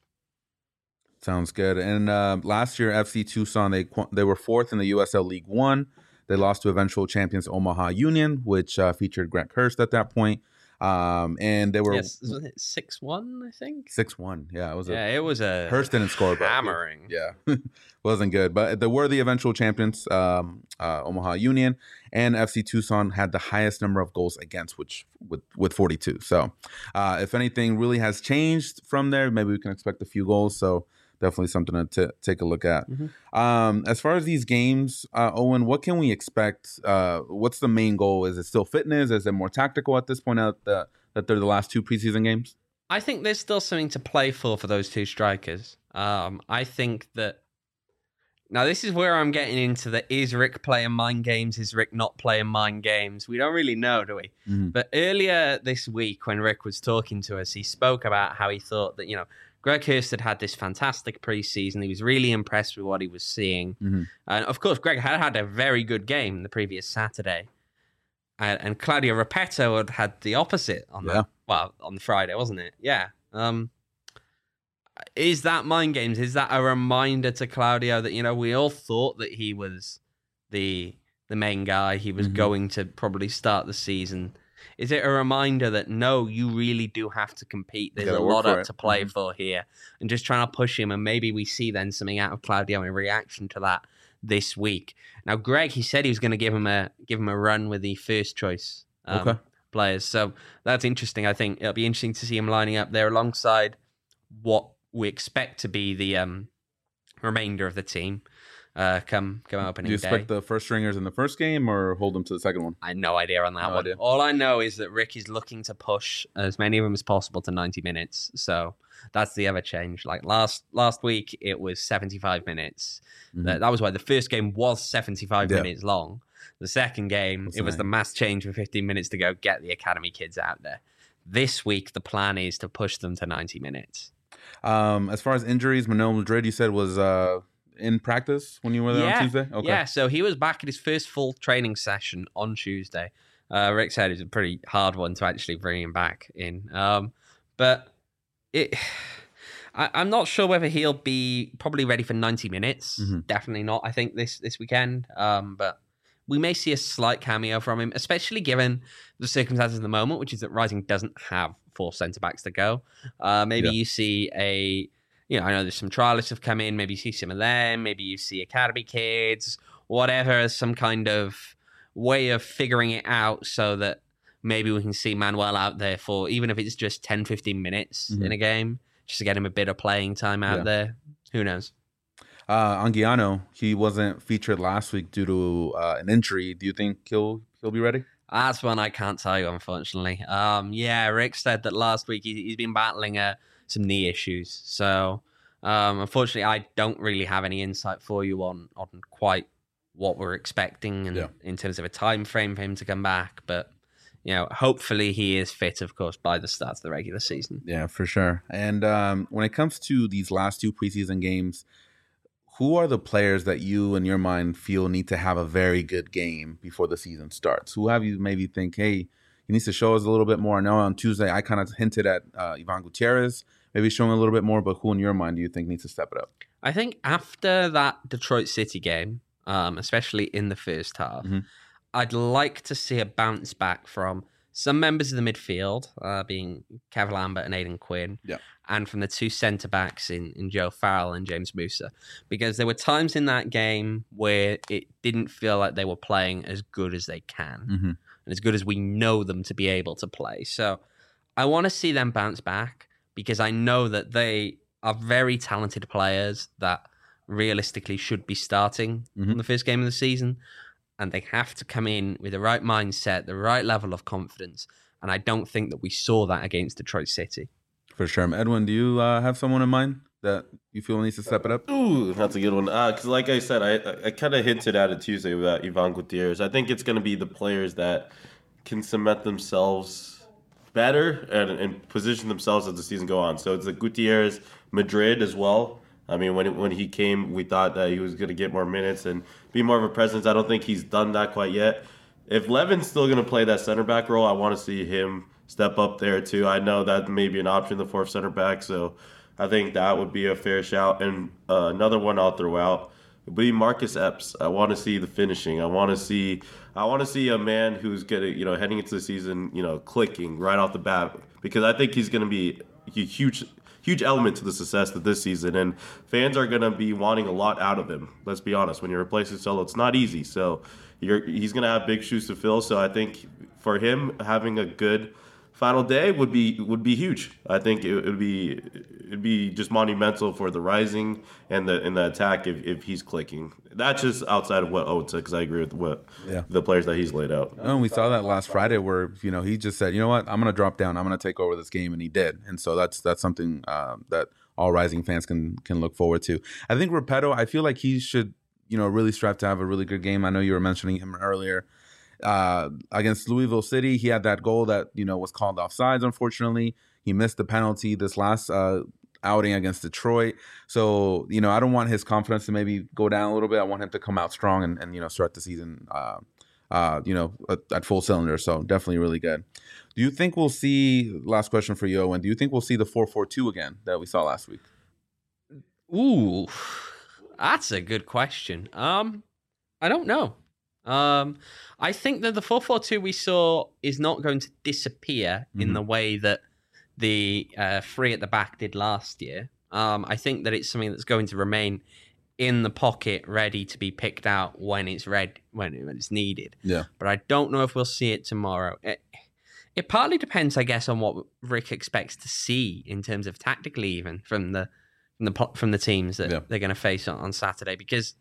Sounds good. And uh, last year, F C Tucson, they they were fourth in the U S L League One. They lost to eventual champions Omaha Union, which uh, featured Grant Hurst at that point. Um, and they were yes, was it six one, I think. Six one, yeah. It was. Yeah, a, it was a Hurst didn't score, but hammering. Yeah, wasn't good. But they were the eventual champions, um, uh, Omaha Union, and F C Tucson had the highest number of goals against, which with with forty-two. So, uh, if anything really has changed from there, maybe we can expect a few goals. So. Definitely something to t- take a look at. Mm-hmm. Um, as far as these games, uh, Owen, what can we expect? Uh, what's the main goal? Is it still fitness? Is it more tactical at this point out that, that they're the last two preseason games? I think there's still something to play for for those two strikers. Um, I think that now this is where I'm getting into the is Rick playing mind games? Is Rick not playing mind games? We don't really know, do we? Mm-hmm. But earlier this week when Rick was talking to us, he spoke about how he thought that, you know, Greg Hurst had had this fantastic preseason. He was really impressed with what he was seeing. Mm-hmm. And of course, Greg had had a very good game the previous Saturday. And, and Claudio Repetto had had the opposite on yeah. the, well, on the Friday, wasn't it? Yeah. Um, is that mind games? Is that a reminder to Claudio that, you know, we all thought that he was the the main guy. He was mm-hmm. going to probably start the season. Is it a reminder that, no, you really do have to compete? There's a lot up to play mm-hmm. for here. And just trying to push him. And maybe we see then something out of Claudio in reaction to that this week. Now, Greg, he said he was going to give him a give him a run with the first choice um, okay. players. So that's interesting. I think it'll be interesting to see him lining up there alongside what we expect to be the um, remainder of the team. Uh, come come opening day. Do you expect day. the first stringers in the first game or hold them to the second one? I had no idea on that no one. Idea. All I know is that Rick is looking to push as many of them as possible to ninety minutes. So that's the other change. Like last last week, it was seventy-five minutes. Mm-hmm. That, that was why the first game was seventy-five yeah. minutes long. The second game, that's it was nice. The mass change with fifteen minutes to go get the academy kids out there. This week, the plan is to push them to ninety minutes. Um, as far as injuries, Manuel Madrid, you said was... Uh... in practice when you were there yeah. on Tuesday? Okay. Yeah, so he was back at his first full training session on Tuesday. Uh, Rick said it's a pretty hard one to actually bring him back in. Um, but it, I, I'm not sure whether he'll be probably ready for ninety minutes. Mm-hmm. Definitely not, I think, this, this weekend. Um, but we may see a slight cameo from him, especially given the circumstances at the moment, which is that Rising doesn't have four centre-backs to go. Uh, maybe yeah. you see a... you know, I know there's some trialists have come in. Maybe you see some of them. Maybe you see academy kids, whatever. Some kind of way of figuring it out so that maybe we can see Manuel out there for even if it's just ten, fifteen minutes mm-hmm. in a game, just to get him a bit of playing time out yeah. there. Who knows? Uh, Anguiano, he wasn't featured last week due to uh, an injury. Do you think he'll he'll be ready? That's one I can't tell you, unfortunately. Um, yeah, Rick said that last week he, he's been battling uh, some knee issues. So, um, unfortunately, I don't really have any insight for you on on quite what we're expecting and, yeah. in terms of a time frame for him to come back. But, you know, hopefully he is fit, of course, by the start of the regular season. Yeah, for sure. And um, when it comes to these last two preseason games, who are the players that you, in your mind, feel need to have a very good game before the season starts? Who have you maybe think, hey, he needs to show us a little bit more? I know on Tuesday I kind of hinted at uh, Ivan Gutierrez, maybe showing a little bit more, but who in your mind do you think needs to step it up? I think after that Detroit City game, um, especially in the first half, mm-hmm. I'd like to see a bounce back from some members of the midfield, uh, being Kev Lambert and Aidan Quinn, yeah. and from the two centre-backs in, in Joe Farrell and James Musa. Because there were times in that game where it didn't feel like they were playing as good as they can, mm-hmm. and as good as we know them to be able to play. So I want to see them bounce back, because I know that they are very talented players that realistically should be starting mm-hmm. on the first game of the season. And they have to come in with the right mindset, the right level of confidence. And I don't think that we saw that against Detroit City. For sure. Edwin, do you uh, have someone in mind that you feel needs to step it up? Ooh, that's a good one. Because uh, like I said, I, I kind of hinted at it Tuesday about Ivan Gutierrez. I think it's going to be the players that can cement themselves better and, and position themselves as the season go on. So it's the Gutierrez, Madrid as well. I mean, when it, when he came, we thought that he was going to get more minutes and be more of a presence. I don't think he's done that quite yet. If Levin's still going to play that center back role, I want to see him step up there too. I know that may be an option, the fourth center back, so I think that would be a fair shout. And uh, another one I'll throw out would be Marcus Epps. I want to see the finishing. I want to see I want to see a man who's getting, you know, heading into the season, you know, clicking right off the bat, because I think he's going to be a huge. Huge element to the success of this season, and fans are going to be wanting a lot out of him. Let's be honest. When you're replacing Solo, it's not easy. So you're, he's going to have big shoes to fill. So I think for him, having a good final day would be would be huge. I think it would be it'd be just monumental for the Rising and the and the attack if, if he's clicking. That's just outside of what Owen said, because I agree with what yeah. the players that he's laid out. Oh, and we saw that last Friday where, you know, he just said, you know what, I'm going to drop down, I'm going to take over this game, and he did. And so that's that's something uh, that all Rising fans can can look forward to. I think Repetto, I feel like he should, you know, really strive to have a really good game. I know you were mentioning him earlier. Uh, against Louisville City, he had that goal that, you know, was called offsides, unfortunately. He missed the penalty this last uh, outing against Detroit. So, you know, I don't want his confidence to maybe go down a little bit. I want him to come out strong and, and you know, start the season, uh, uh, you know, at, at full cylinder. So definitely really good. Do you think we'll see, last question for you, Owen, do you think we'll see the four four two again that we saw last week? Ooh, that's a good question. Um, I don't know. Um, I think that the four four two we saw is not going to disappear mm-hmm. in the way that the uh, three at the back did last year. Um, I think that it's something that's going to remain in the pocket, ready to be picked out when it's red, when, when it's needed. Yeah. But I don't know if we'll see it tomorrow. It, it partly depends, I guess, on what Rick expects to see in terms of tactically, even from the from the from the teams that yeah. they're going to face on, on Saturday, because,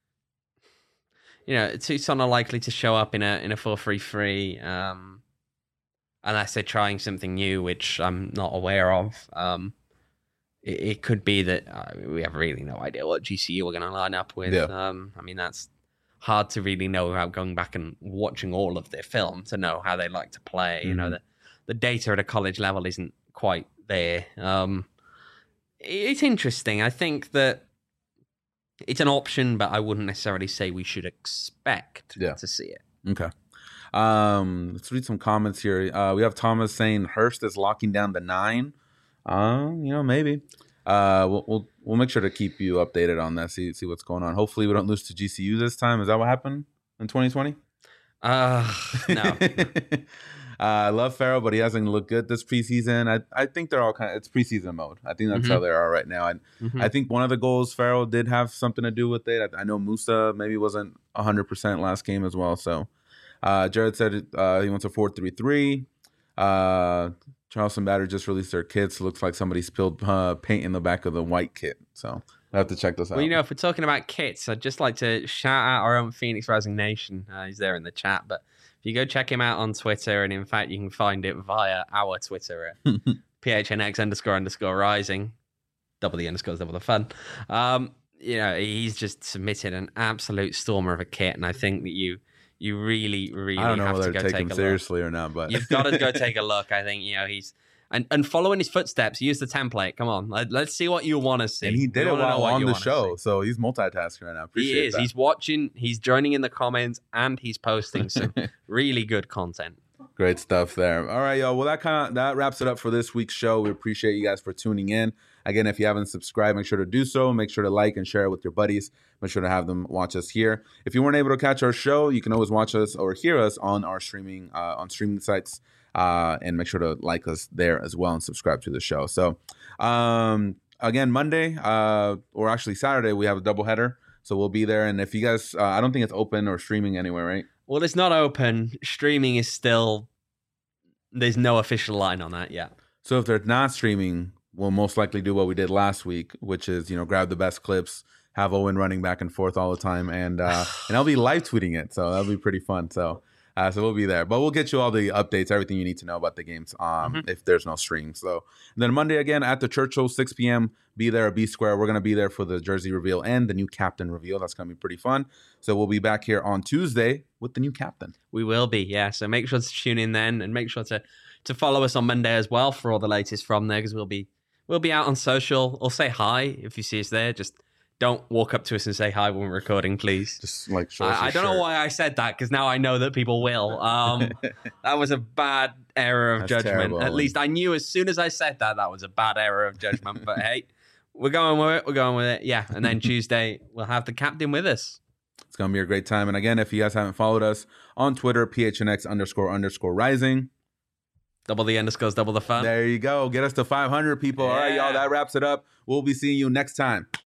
you know, Tucson are likely to show up in a in a four three three, um, unless they're trying something new, which I'm not aware of. Um, it, it could be that uh, we have really no idea what G C U are going to line up with. Yeah. Um, I mean, that's hard to really know without going back and watching all of their film to know how they like to play. Mm-hmm. You know, the, the data at a college level isn't quite there. Um, it's interesting. I think that it's an option, but I wouldn't necessarily say we should expect yeah. to see it. Okay. Um, let's read some comments here. Uh, we have Thomas saying Hurst is locking down the nine. Uh, you know, maybe. Uh, we'll, we'll we'll make sure to keep you updated on that. See see what's going on. Hopefully, we don't lose to G C U this time. Is that what happened in twenty twenty? Uh, no. I love Pharaoh, but he hasn't looked good this preseason. I, I think they're all kind of, it's preseason mode. I think that's mm-hmm. how they are right now. And mm-hmm. I think one of the goals, Pharaoh did have something to do with it. I, I know Musa maybe wasn't one hundred percent last game as well. So uh, Jared said uh, he wants a four three three. Uh, Charleston Batter just released their kits. Looks like somebody spilled uh, paint in the back of the white kit. So I have to check this out. Well, you know, if we're talking about kits, I'd just like to shout out our own Phoenix Rising Nation. Uh, he's there in the chat, but if you go check him out on Twitter, and in fact, you can find it via our Twitter at P H N X underscore underscore rising. Double the underscores, double the fun. Um, you know, he's just submitted an absolute stormer of a kit, and I think that you you really, really I don't know have whether to go to take take him a seriously look. or not, but You've got to go take a look. I think, you know, he's and, and following his footsteps, use the template. Come on, let, let's see what you want to see. And he did we it while on the see. show, so he's multitasking right now. Appreciate he is. That. He's watching, he's joining in the comments, and he's posting some really good content. Great stuff there. All right, y'all. Well, that kind of that wraps it up for this week's show. We appreciate you guys for tuning in. Again, if you haven't subscribed, make sure to do so. Make sure to like and share it with your buddies. Make sure to have them watch us here. If you weren't able to catch our show, you can always watch us or hear us on our streaming uh, on streaming sites. Uh, and make sure to like us there as well and subscribe to the show. So, um, again, Monday, uh, or actually Saturday, we have a doubleheader. So we'll be there. And if you guys, uh, I don't think it's open or streaming anywhere, right? Well, it's not open. Streaming is still, there's no official line on that yet. So if they're not streaming, we'll most likely do what we did last week, which is, you know, grab the best clips, have Owen running back and forth all the time. And, uh, and I'll be live tweeting it. So that'll be pretty fun. So. Uh, so we'll be there, but we'll get you all the updates, everything you need to know about the games um, mm-hmm. if there's no stream. So and then Monday again at the Churchill, six p.m. Be there at B Square. We're going to be there for the jersey reveal and the new captain reveal. That's going to be pretty fun. So we'll be back here on Tuesday with the new captain. We will be, yeah. So make sure to tune in then, and make sure to to follow us on Monday as well for all the latest from there, because we'll be we'll be out on social. Or say hi if you see us there. Just don't walk up to us and say hi when we're recording, please. Just like show I, I don't shirt. know why I said that, because now I know that people will. Um, that was a bad error of That's judgment. terrible. At least I knew as soon as I said that that was a bad error of judgment. But hey, we're going with it. We're going with it. Yeah. And then Tuesday we'll have the captain with us. It's gonna be a great time. And again, if you guys haven't followed us on Twitter, P H N X underscore underscore rising. Double the underscores, double the fun. There you go. Get us to five hundred people. Yeah. All right, y'all. That wraps it up. We'll be seeing you next time.